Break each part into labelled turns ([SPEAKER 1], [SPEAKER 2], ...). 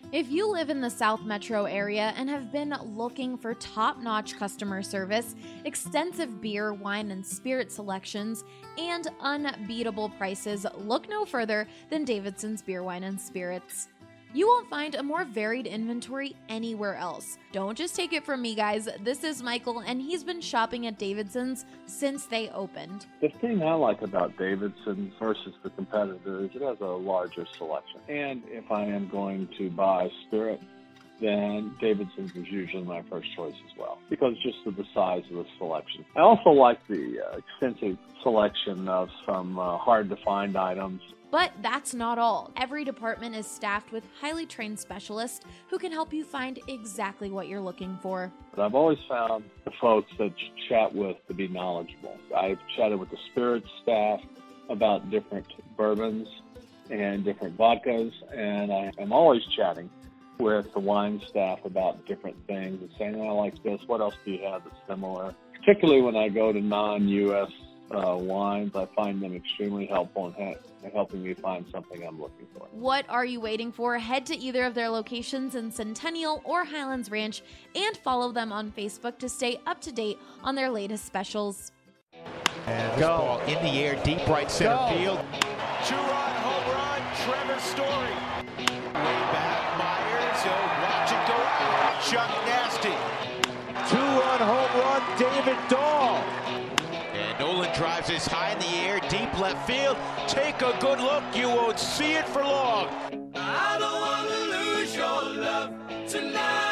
[SPEAKER 1] If you live in the South Metro area and have been looking for top-notch customer service, extensive beer, wine, and spirit selections, and unbeatable prices, look no further than Davidson's Beer, Wine, and Spirits. You won't find a more varied inventory anywhere else. Don't just take it from me, guys. This is Michael, and he's been shopping at Davidson's since they opened.
[SPEAKER 2] The thing I like about Davidson's versus the competitor is it has a larger selection. And if I am going to buy spirit, then Davidson's is usually my first choice as well, because just of the size of the selection. I also like the extensive selection of some hard-to-find items.
[SPEAKER 1] But that's not all. Every department is staffed with highly trained specialists who can help you find exactly what you're looking for.
[SPEAKER 2] But I've always found the folks that you chat with to be knowledgeable. I've chatted with the spirits staff about different bourbons and different vodkas, and I am always chatting with the wine staff about different things and saying, I like this, what else do you have that's similar? Particularly when I go to non-U.S. wines, I find them extremely helpful in helping me find something I'm looking for.
[SPEAKER 1] What are you waiting for? Head to either of their locations in Centennial or Highlands Ranch and follow them on Facebook to stay up to date on their latest specials.
[SPEAKER 3] And this ball in the air, deep right center field.
[SPEAKER 4] Two-run home run, Trevor Story. Way back, Myers, watch it go out. Chuck Nasty.
[SPEAKER 3] Two-run home run, David Dahl.
[SPEAKER 4] And Nolan drives this high in the air, deep left field. Take a good look, you won't see it for long. I don't want to lose your love tonight.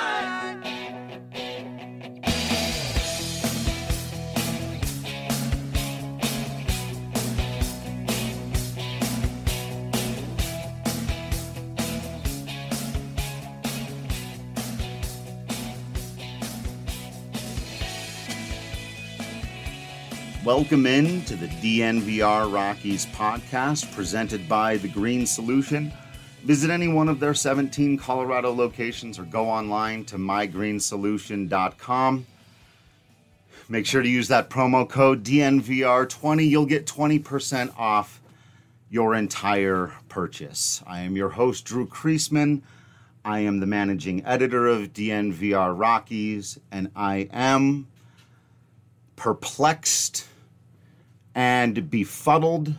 [SPEAKER 5] Welcome in to the DNVR Rockies podcast presented by The Green Solution. Visit any one of their 17 Colorado locations or go online to mygreensolution.com. Make sure to use that promo code DNVR20. You'll get 20% off your entire purchase. I am your host, Drew Kreisman. I am the managing editor of DNVR Rockies, and I am perplexed and befuddled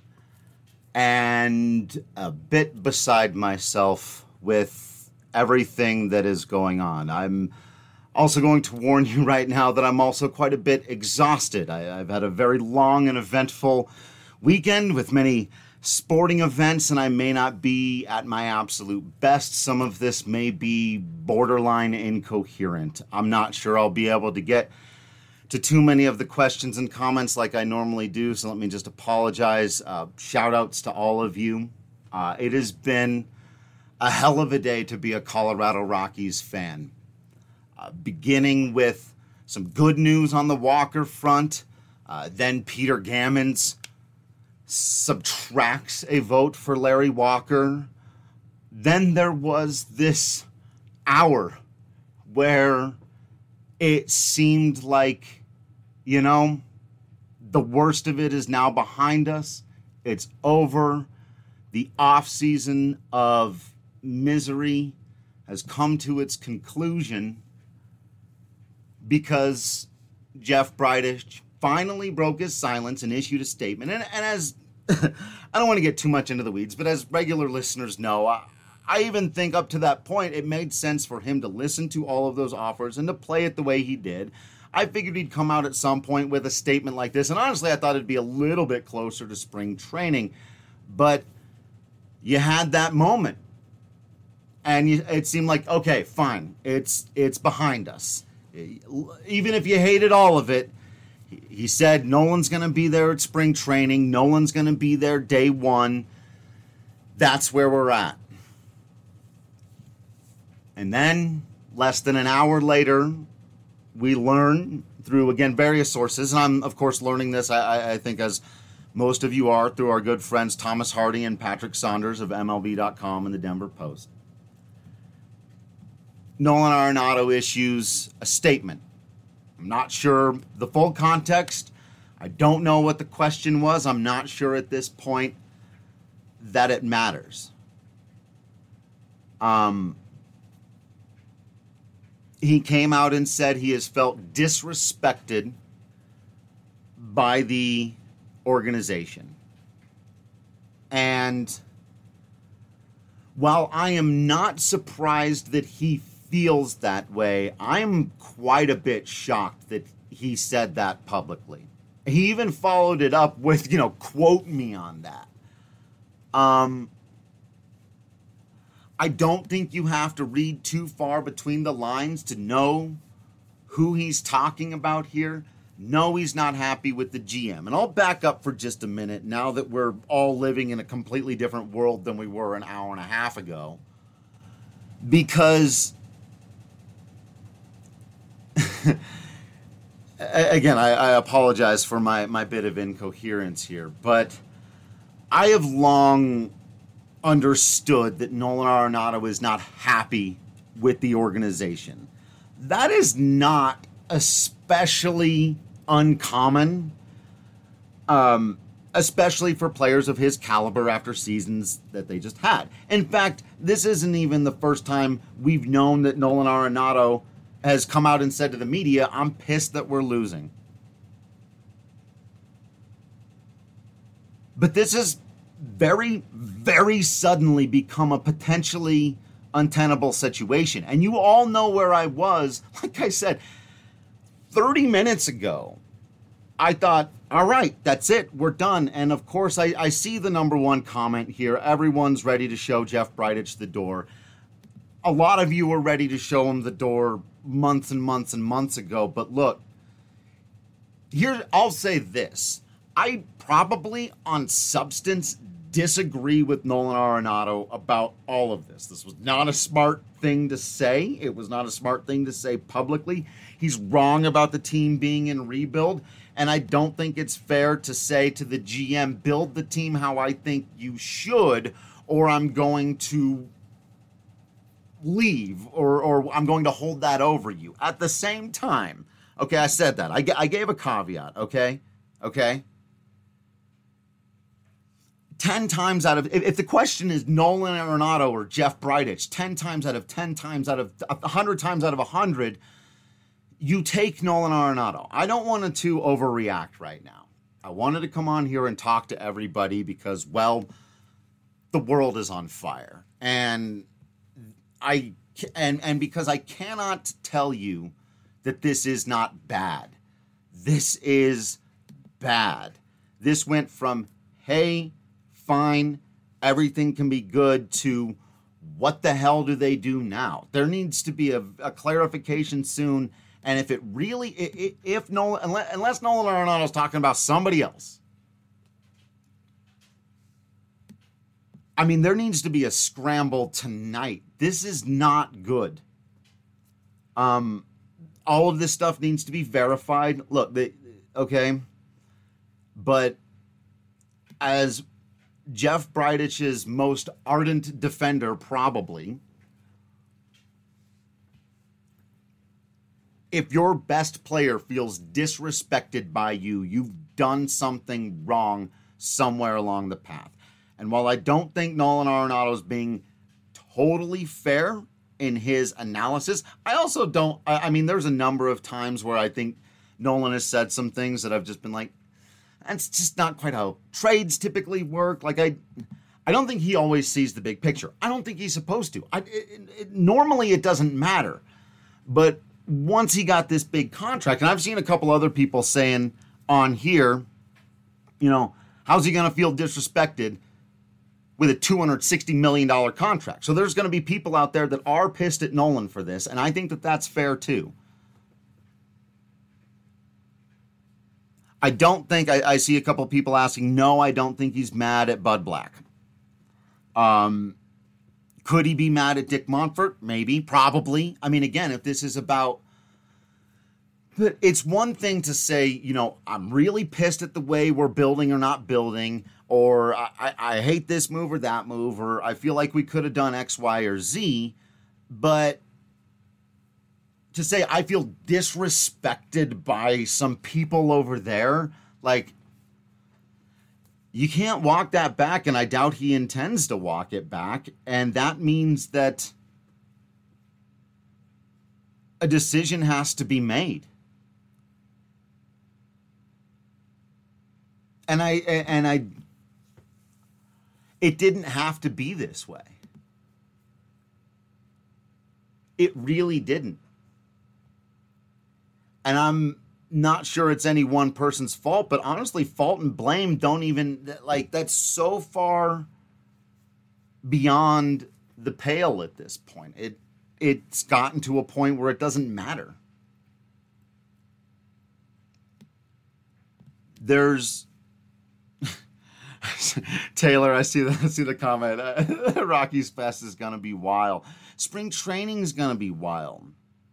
[SPEAKER 5] and a bit beside myself with everything that is going on. I'm also going to warn you right now that I'm also quite a bit exhausted. I've had a very long and eventful weekend with many sporting events, and I may not be at my absolute best. Some of this may be borderline incoherent. I'm not sure I'll be able to get to too many of the questions and comments like I normally do, so let me just apologize. Shout outs to all of you. It has been a hell of a day to be a Colorado Rockies fan. Beginning with some good news on the Walker front, then Peter Gammons subtracts a vote for Larry Walker. Then there was this hour where it seemed like, the worst of it is now behind us. It's over. The off-season of misery has come to its conclusion because Jeff Bridich finally broke his silence and issued a statement. And as I don't want to get too much into the weeds, but as regular listeners know, I even think up to that point, it made sense for him to listen to all of those offers and to play it the way he did. I figured he'd come out at some point with a statement like this. And honestly, I thought it'd be a little bit closer to spring training. But you had that moment. And it seemed like, okay, fine. It's behind us. Even if you hated all of it, he said Nolan's going to be there at spring training. Nolan's going to be there day one. That's where we're at. And then, less than an hour later, we learn through, again, various sources, and I'm, of course, learning this, I think, as most of you are, through our good friends Thomas Hardy and Patrick Saunders of MLB.com and the Denver Post. Nolan Arenado issues a statement. I'm not sure the full context. I don't know what the question was. I'm not sure at this point that it matters. He came out and said he has felt disrespected by the organization. And while I am not surprised that he feels that way, I'm quite a bit shocked that he said that publicly. He even followed it up with, quote me on that. I don't think you have to read too far between the lines to know who he's talking about here. No, he's not happy with the GM. And I'll back up for just a minute now that we're all living in a completely different world than we were an hour and a half ago. Because, again, I apologize for my bit of incoherence here, but I have long understood that Nolan Arenado is not happy with the organization. That is not especially uncommon, especially for players of his caliber after seasons that they just had. In fact, this isn't even the first time we've known that Nolan Arenado has come out and said to the media, I'm pissed that we're losing. But this has very, very suddenly become a potentially untenable situation. And you all know where I was. Like I said, 30 minutes ago, I thought, all right, that's it. We're done. And of course, I see the number one comment here. Everyone's ready to show Jeff Bridich the door. A lot of you were ready to show him the door months and months and months ago. But look, here, I'll say this. I probably, on substance, disagree with Nolan Arenado about all of this. This was not a smart thing to say. It was not a smart thing to say publicly. He's wrong about the team being in rebuild, and I don't think it's fair to say to the GM, build the team how I think you should, or I'm going to leave, or I'm going to hold that over you. At the same time, okay, I said that. I gave a caveat, okay? 10 times out of, if the question is Nolan Arenado or Jeff Bridich, 10 times out of 10 times out of 100 times out of 100, you take Nolan Arenado. I don't want to overreact right now. I wanted to come on here and talk to everybody because, well, the world is on fire. And because I cannot tell you that this is not bad. This is bad. This went from, hey, fine, everything can be good, to what the hell do they do now? There needs to be a clarification soon. And if it really, if Nolan, unless Nolan Arenado is talking about somebody else, I mean, there needs to be a scramble tonight. This is not good. All of this stuff needs to be verified. Look, okay, but as Jeff Bridich's most ardent defender, probably, if your best player feels disrespected by you, you've done something wrong somewhere along the path. And while I don't think Nolan Arenado is being totally fair in his analysis, I also don't, I mean, there's a number of times where I think Nolan has said some things that I've just been like, that's just not quite how trades typically work. Like, I don't think he always sees the big picture. I don't think he's supposed to. Normally, it doesn't matter. But once he got this big contract, and I've seen a couple other people saying on here, how's he going to feel disrespected with a $260 million contract? So there's going to be people out there that are pissed at Nolan for this, and I think that that's fair too. I don't think, I see a couple of people asking, no, I don't think he's mad at Bud Black. Could he be mad at Dick Monfort? Maybe, probably. I mean, again, if this is about, but it's one thing to say, I'm really pissed at the way we're building or not building, or I hate this move or that move, or I feel like we could have done X, Y, or Z, but to say I feel disrespected by some people over there, like, You can't walk that back, and I doubt he intends to walk it back. And that means that a decision has to be made. And it didn't have to be this way. It really didn't. And I'm not sure it's any one person's fault, but honestly, fault and blame don't even, like, that's so far beyond the pale at this point. It's gotten to a point where it doesn't matter. There's Taylor, I see the comment. Rockies Fest is gonna be wild. Spring training is gonna be wild.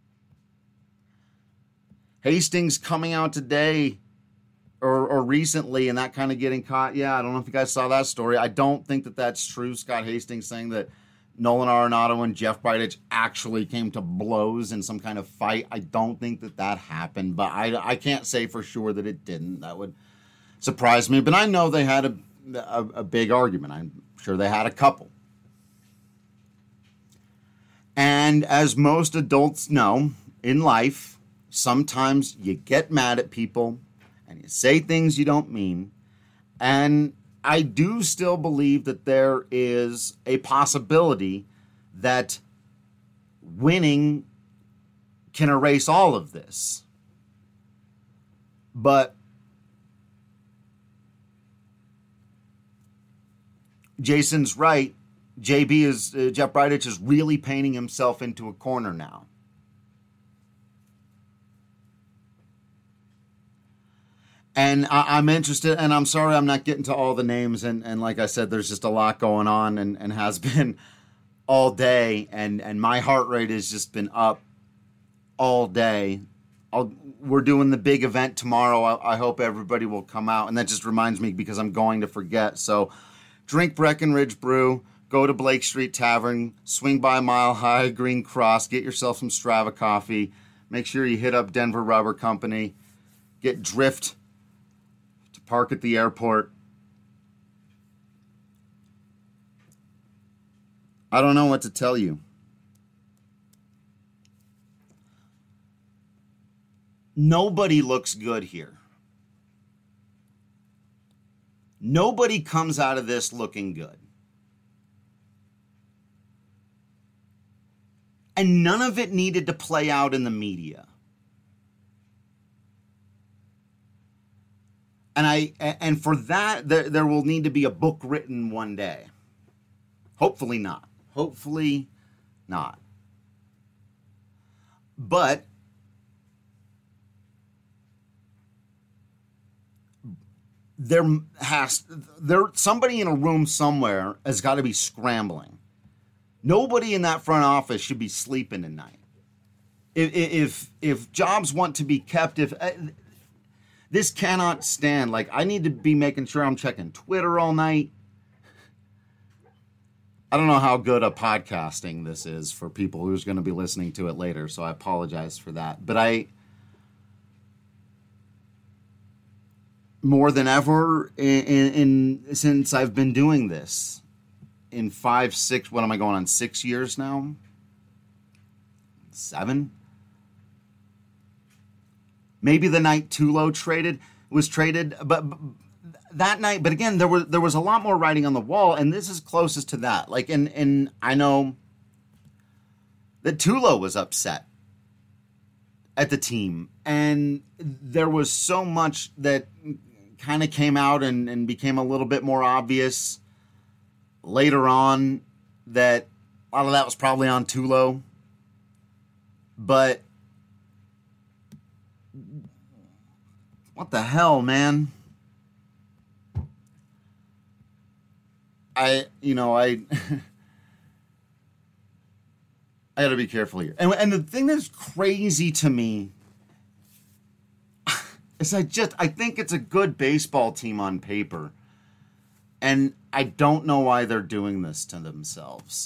[SPEAKER 5] Hastings coming out today or recently and that kind of getting caught. Yeah, I don't know if you guys saw that story. I don't think that that's true. Scott Hastings saying that Nolan Arenado and Jeff Bridich actually came to blows in some kind of fight. I don't think that happened, but I can't say for sure that it didn't. That would surprise me. But I know they had a big argument. I'm sure they had a couple. And as most adults know, in life, sometimes you get mad at people and you say things you don't mean. And I do still believe that there is a possibility that winning can erase all of this. But Jason's right. Jeff Bridich is really painting himself into a corner now. And I'm interested, and I'm sorry I'm not getting to all the names, and like I said, there's just a lot going on and has been all day, and my heart rate has just been up all day. We're doing the big event tomorrow. I hope everybody will come out, and that just reminds me because I'm going to forget. So drink Breckenridge Brew, go to Blake Street Tavern, swing by Mile High, Green Cross, get yourself some Strava coffee, make sure you hit up Denver Rubber Company, get Drift, park at the airport. I don't know what to tell you. Nobody looks good here. Nobody comes out of this looking good. And none of it needed to play out in the media. And for that, there will need to be a book written one day. Hopefully not. Hopefully not. But somebody in a room somewhere has got to be scrambling. Nobody in that front office should be sleeping at night. If jobs want to be kept, this cannot stand. Like, I need to be making sure I'm checking Twitter all night. I don't know how good a podcasting this is for people who's going to be listening to it later, so I apologize for that. But more than ever, since I've been doing this, in 6 years now? 7? Maybe the night Tulo was traded, but that night. But again, there was a lot more writing on the wall, and this is closest to that. Like, and I know that Tulo was upset at the team, and there was so much that kind of came out and became a little bit more obvious later on that a lot of that was probably on Tulo, but. What the hell, man? I gotta be careful here. And the thing that's crazy to me is I think it's a good baseball team on paper. And I don't know why they're doing this to themselves.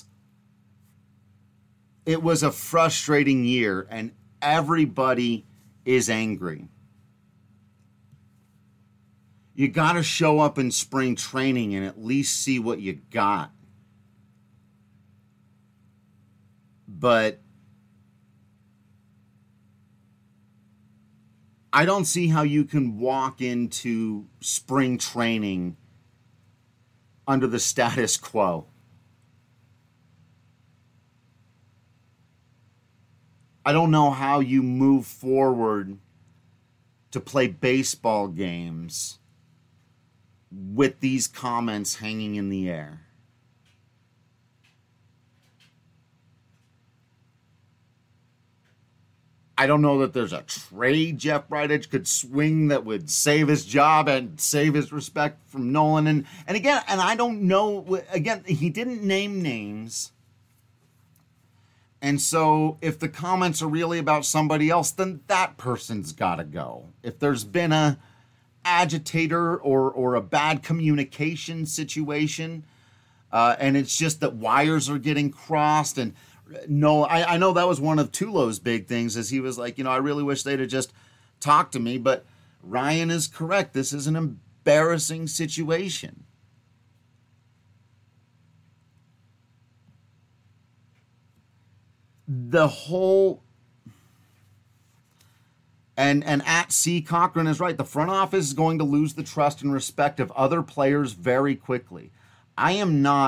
[SPEAKER 5] It was a frustrating year, and everybody is angry. you got to show up in spring training and at least see what you got. But I don't see how you can walk into spring training under the status quo. I don't know how you move forward to play baseball games with these comments hanging in the air. I don't know that there's a trade Jeff Bridich could swing that would save his job and save his respect from Nolan. And again, and I don't know, again, he didn't name names. And so if the comments are really about somebody else, then that person's got to go. If there's been a agitator or a bad communication situation, and it's just that wires are getting crossed. And no, I know that was one of Tulo's big things, is he was like, I really wish they'd have just talked to me. But Ryan is correct. This is an embarrassing situation. The whole, and at C. Cochran is right. The front office is going to lose the trust and respect of other players very quickly. I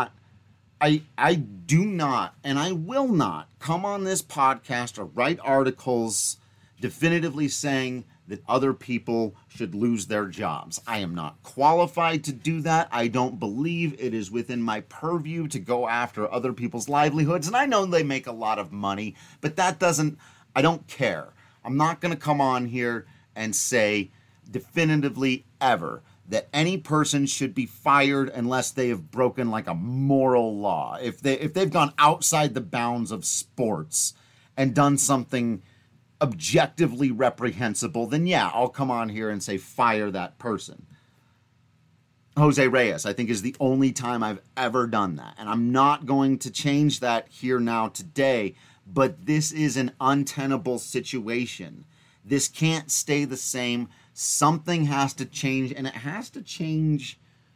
[SPEAKER 5] do not, and I will not come on this podcast or write articles definitively saying that other people should lose their jobs. I am not qualified to do that. I don't believe it is within my purview to go after other people's livelihoods. And I know they make a lot of money, but I don't care. I'm not going to come on here and say definitively ever that any person should be fired unless they have broken like a moral law. If they've gone outside the bounds of sports and done something objectively reprehensible, then yeah, I'll come on here and say fire that person. Jose Reyes, I think, is the only time I've ever done that. And I'm not going to change that here now today, but this is an untenable situation. This can't stay the same. Something has to change, and it has to change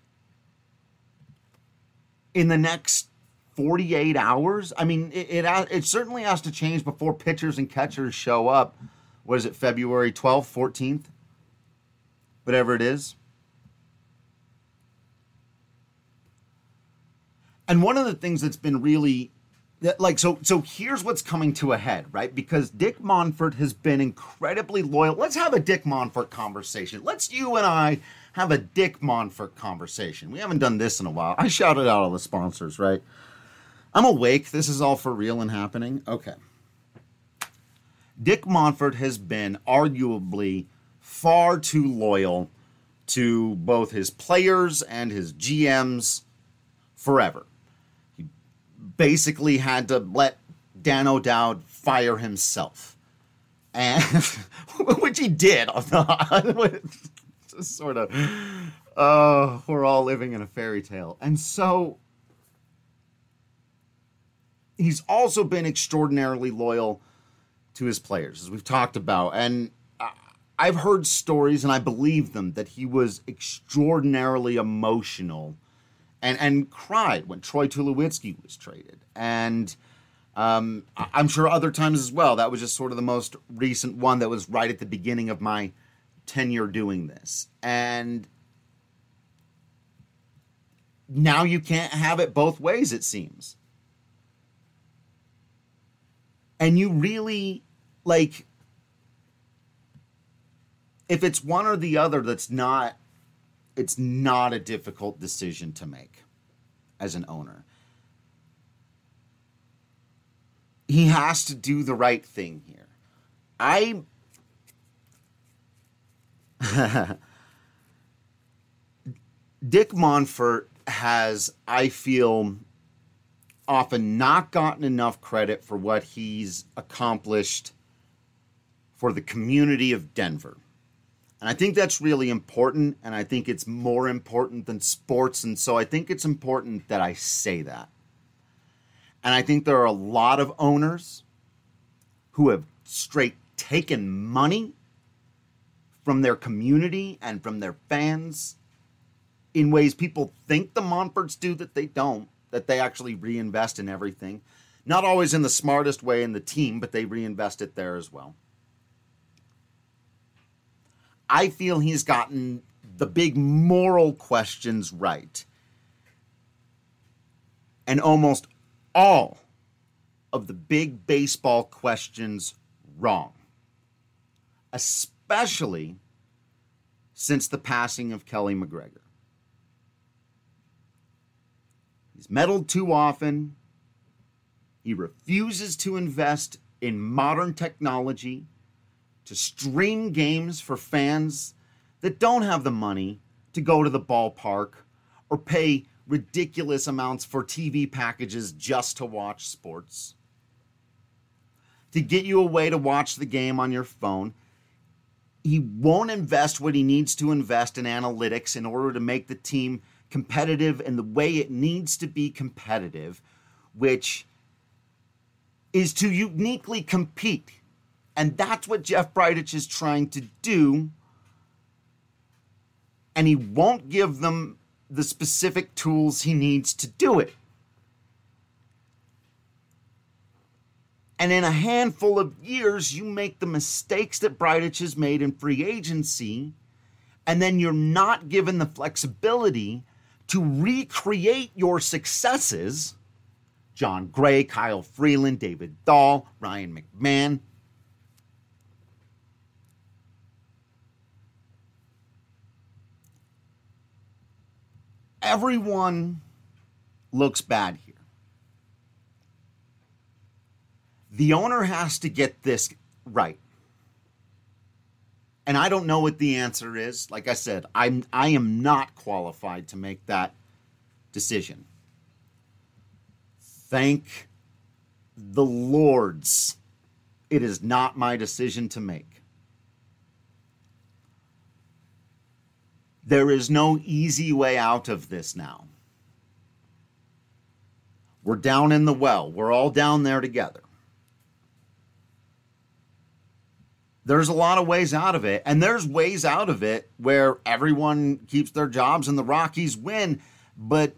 [SPEAKER 5] in the next 48 hours. I mean, it certainly has to change before pitchers and catchers show up. What is it, February 12th, 14th? Whatever it is. And one of the things that's been really, so here's what's coming to a head, right? Because Dick Monfort has been incredibly loyal. Let's have a Dick Monfort conversation. Let's you and I have a Dick Monfort conversation. We haven't done this in a while. I shouted out all the sponsors, right? I'm awake. This is all for real and happening. Okay. Dick Monfort has been arguably far too loyal to both his players and his GMs forever. He basically had to let Dan O'Dowd fire himself. And which he did. Just sort of, we're all living in a fairy tale. And so he's also been extraordinarily loyal to his players, as we've talked about. And I've heard stories, and I believe them, that he was extraordinarily emotional and cried when Troy Tulowitzki was traded. And I'm sure other times as well. That was just sort of the most recent one that was right at the beginning of my tenure doing this. And now you can't have it both ways, it seems. And you really, like, if it's one or the other, it's not a difficult decision to make as an owner. He has to do the right thing here. Dick Monfort has, I feel, often not gotten enough credit for what he's accomplished for the community of Denver. And I think that's really important, and I think it's more important than sports, and so I think it's important that I say that. And I think there are a lot of owners who have straight taken money from their community and from their fans in ways people think the Montforts do that they don't, that they actually reinvest in everything. Not always in the smartest way in the team, but they reinvest it there as well. I feel he's gotten the big moral questions right. And almost all of the big baseball questions wrong. Especially since the passing of Kelly McGregor. He's meddled too often. He refuses to invest in modern technology to stream games for fans that don't have the money to go to the ballpark or pay ridiculous amounts for TV packages just to watch sports. To get you a way to watch the game on your phone. He won't invest what he needs to invest in analytics in order to make the team competitive in the way it needs to be competitive, which is to uniquely compete. And that's what Jeff Bridich is trying to do. And he won't give them the specific tools he needs to do it. And in a handful of years, you make the mistakes that Bridich has made in free agency, and then you're not given the flexibility to recreate your successes. John Gray, Kyle Freeland, David Dahl, Ryan McMahon. Everyone looks bad here. The owner has to get this right. And I don't know what the answer is. Like I said, I am not qualified to make that decision. Thank the Lords. It is not my decision to make. There is no easy way out of this now. We're down in the well. We're all down there together. There's a lot of ways out of it, and there's ways out of it where everyone keeps their jobs and the Rockies win, but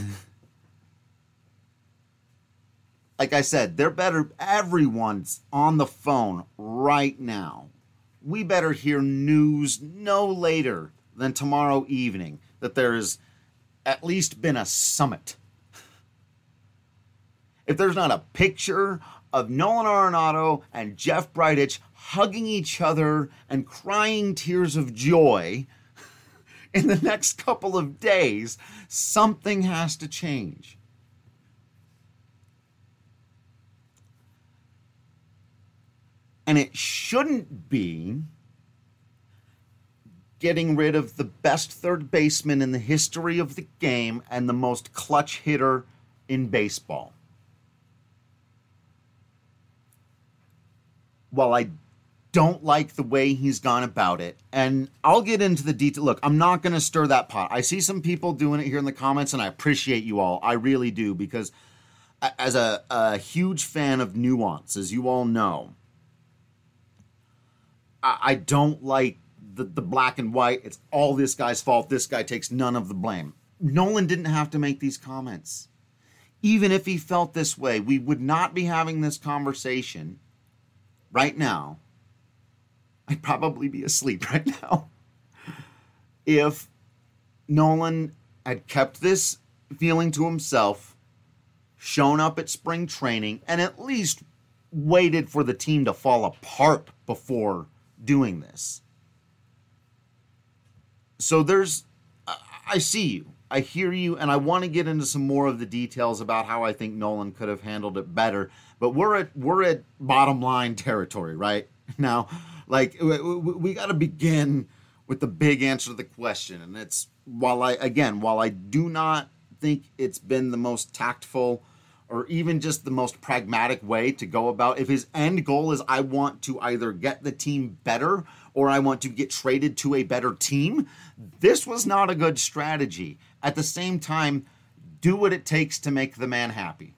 [SPEAKER 5] like I said, everyone's on the phone right now. We better hear news no later than tomorrow evening that there has at least been a summit. If there's not a picture of Nolan Arenado and Jeff Bridich hugging each other and crying tears of joy in the next couple of days, something has to change. And it shouldn't be getting rid of the best third baseman in the history of the game and the most clutch hitter in baseball. While I don't like the way he's gone about it, and I'll get into the detail. Look, I'm not going to stir that pot. I see some people doing it here in the comments, and I appreciate you all. I really do, because as a huge fan of nuance, as you all know, I don't like the black and white. It's all this guy's fault. This guy takes none of the blame. Nolan didn't have to make these comments. Even if he felt this way, we would not be having this conversation right now. I'd probably be asleep right now if Nolan had kept this feeling to himself, shown up at spring training, and at least waited for the team to fall apart before doing this. So I see you, I hear you, and I want to get into some more of the details about how I think Nolan could have handled it better. But we're at bottom line territory right now. Like, we got to begin with the big answer to the question, and it's while I do not think it's been the most tactful or even just the most pragmatic way to go about. If his end goal is I want to either get the team better or I want to get traded to a better team, this was not a good strategy. At the same time, do what it takes to make the man happy.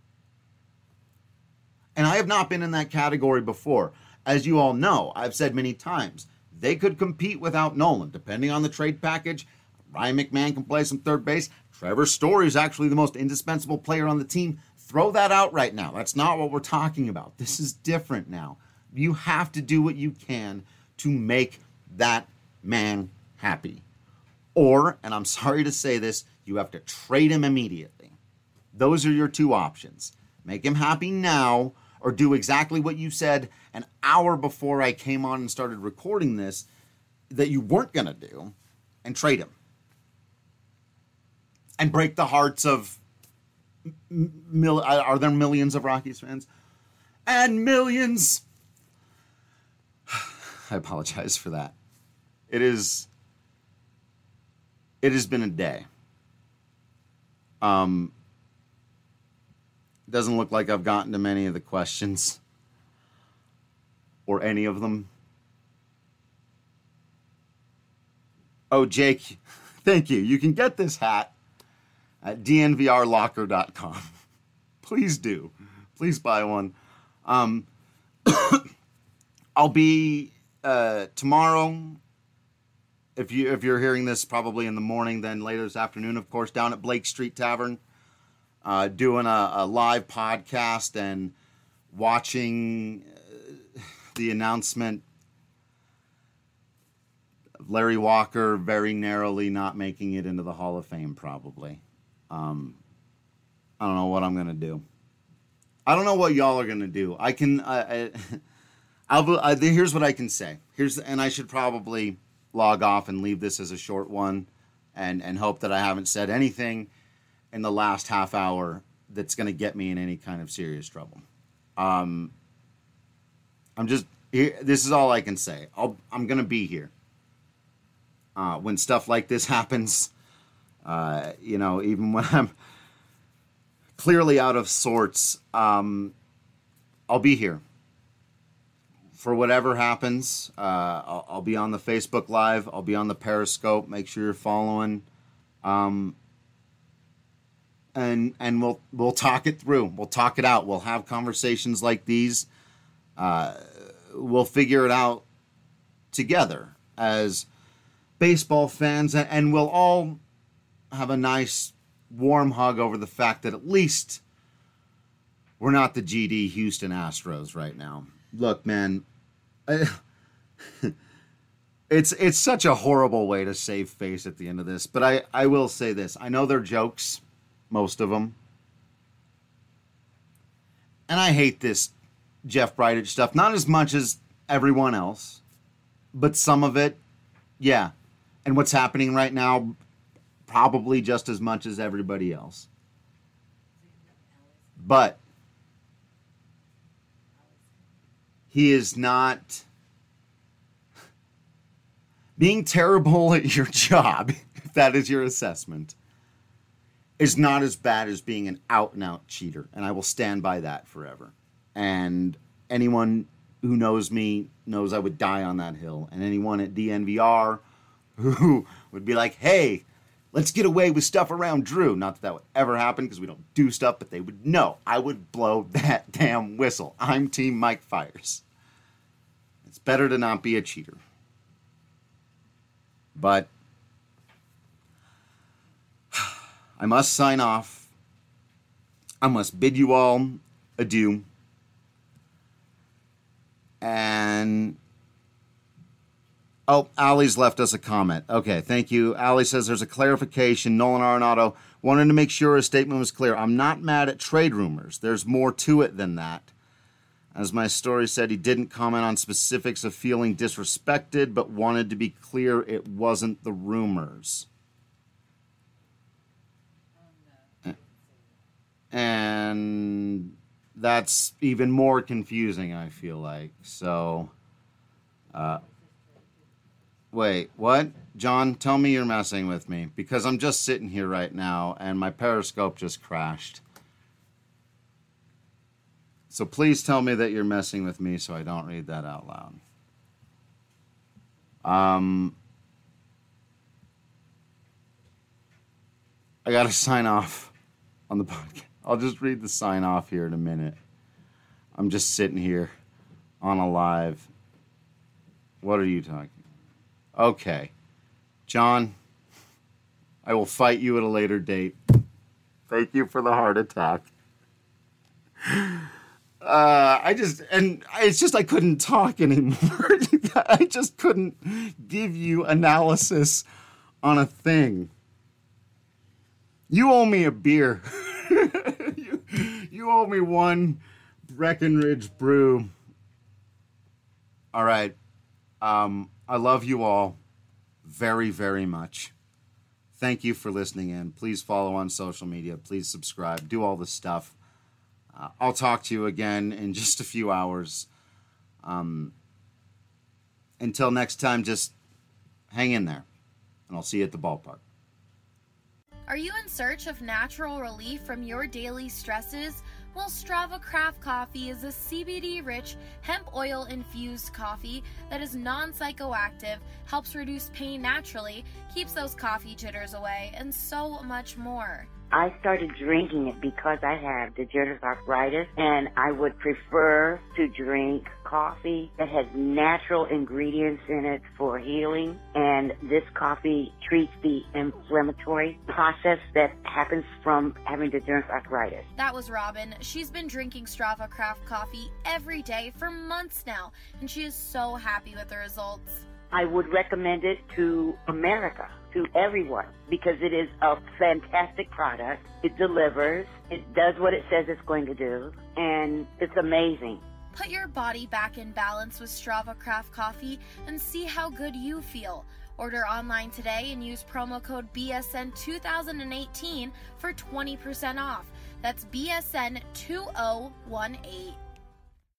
[SPEAKER 5] And I have not been in that category before. As you all know, I've said many times, they could compete without Nolan. Depending on the trade package, Ryan McMahon can play some third base. Trevor Story is actually the most indispensable player on the team. Throw that out right now. That's not what we're talking about. This is different now. You have to do what you can to make that man happy. Or, and I'm sorry to say this, you have to trade him immediately. Those are your two options. Make him happy now, or do exactly what you said an hour before I came on and started recording this that you weren't going to do, and trade him. And break the hearts of, are there millions of Rockies fans? And millions. I apologize for that. It has been a day. It doesn't look like I've gotten to many of the questions. Or any of them. Oh, Jake, thank you. You can get this hat at dnvrlocker.com. Please do. Please buy one. I'll be tomorrow, if you're hearing this probably in the morning, then later this afternoon, of course, down at Blake Street Tavern, doing a live podcast and watching the announcement of Larry Walker very narrowly not making it into the Hall of Fame, probably. I don't know what I'm going to do. I don't know what y'all are going to do. I can... here's what I can say. And I should probably log off and leave this as a short one and hope that I haven't said anything in the last half hour that's going to get me in any kind of serious trouble. This is all I can say. I'm going to be here. When stuff like this happens, even when I'm clearly out of sorts, I'll be here. For whatever happens, I'll be on the Facebook Live. I'll be on the Periscope. Make sure you're following. And we'll talk it through. We'll talk it out. We'll have conversations like these. We'll figure it out together as baseball fans, and we'll all have a nice warm hug over the fact that at least we're not the GD Houston Astros right now. Look, man, it's such a horrible way to save face at the end of this, but I will say this. I know they're jokes, most of them. And I hate this Jeff Bridich stuff, not as much as everyone else, but some of it, yeah. And what's happening right now, probably just as much as everybody else. But he is not being terrible at your job, if that is your assessment, is not as bad as being an out-and-out cheater. And I will stand by that forever. And anyone who knows me knows I would die on that hill. And anyone at DNVR who would be like, hey, let's get away with stuff around Drew. Not that would ever happen because we don't do stuff, but they would know. I would blow that damn whistle. I'm Team Mike Fiers. It's better to not be a cheater. But I must sign off. I must bid you all adieu. And Allie's left us a comment. Okay, thank you. Allie says there's a clarification. Nolan Arenado wanted to make sure his statement was clear. I'm not mad at trade rumors. There's more to it than that. As my story said, he didn't comment on specifics of feeling disrespected, but wanted to be clear it wasn't the rumors. And that's even more confusing, I feel like. So, wait, what? John, tell me you're messing with me, because I'm just sitting here right now, and my Periscope just crashed. So please tell me that you're messing with me so I don't read that out loud. I got to sign off on the podcast. I'll just read the sign off here in a minute. I'm just sitting here on a live. What are you talking about? Okay. John, I will fight you at a later date. Thank you for the heart attack. It's just I couldn't talk anymore. I just couldn't give you analysis on a thing. You owe me a beer. You owe me one Breckenridge brew. All right. I love you all very, very much. Thank you for listening in. Please follow on social media. Please subscribe. Do all the stuff. I'll talk to you again in just a few hours. Until next time, just hang in there. And I'll see you at the ballpark.
[SPEAKER 1] Are you in search of natural relief from your daily stresses? Well, Strava Craft Coffee is a CBD-rich, hemp oil-infused coffee that is non-psychoactive, helps reduce pain naturally, keeps those coffee jitters away, and so much more.
[SPEAKER 6] I started drinking it because I have degenerative arthritis, and I would prefer to drink coffee that has natural ingredients in it for healing, and this coffee treats the inflammatory process that happens from having degenerative arthritis.
[SPEAKER 1] That was Robin. She's been drinking Strava Craft Coffee every day for months now, and she is so happy with the results.
[SPEAKER 6] I would recommend it to America, to everyone, because it is a fantastic product. It delivers. It does what it says it's going to do, and it's amazing.
[SPEAKER 1] Put your body back in balance with Strava Craft Coffee and see how good you feel. Order online today and use promo code BSN2018 for 20% off. That's BSN2018.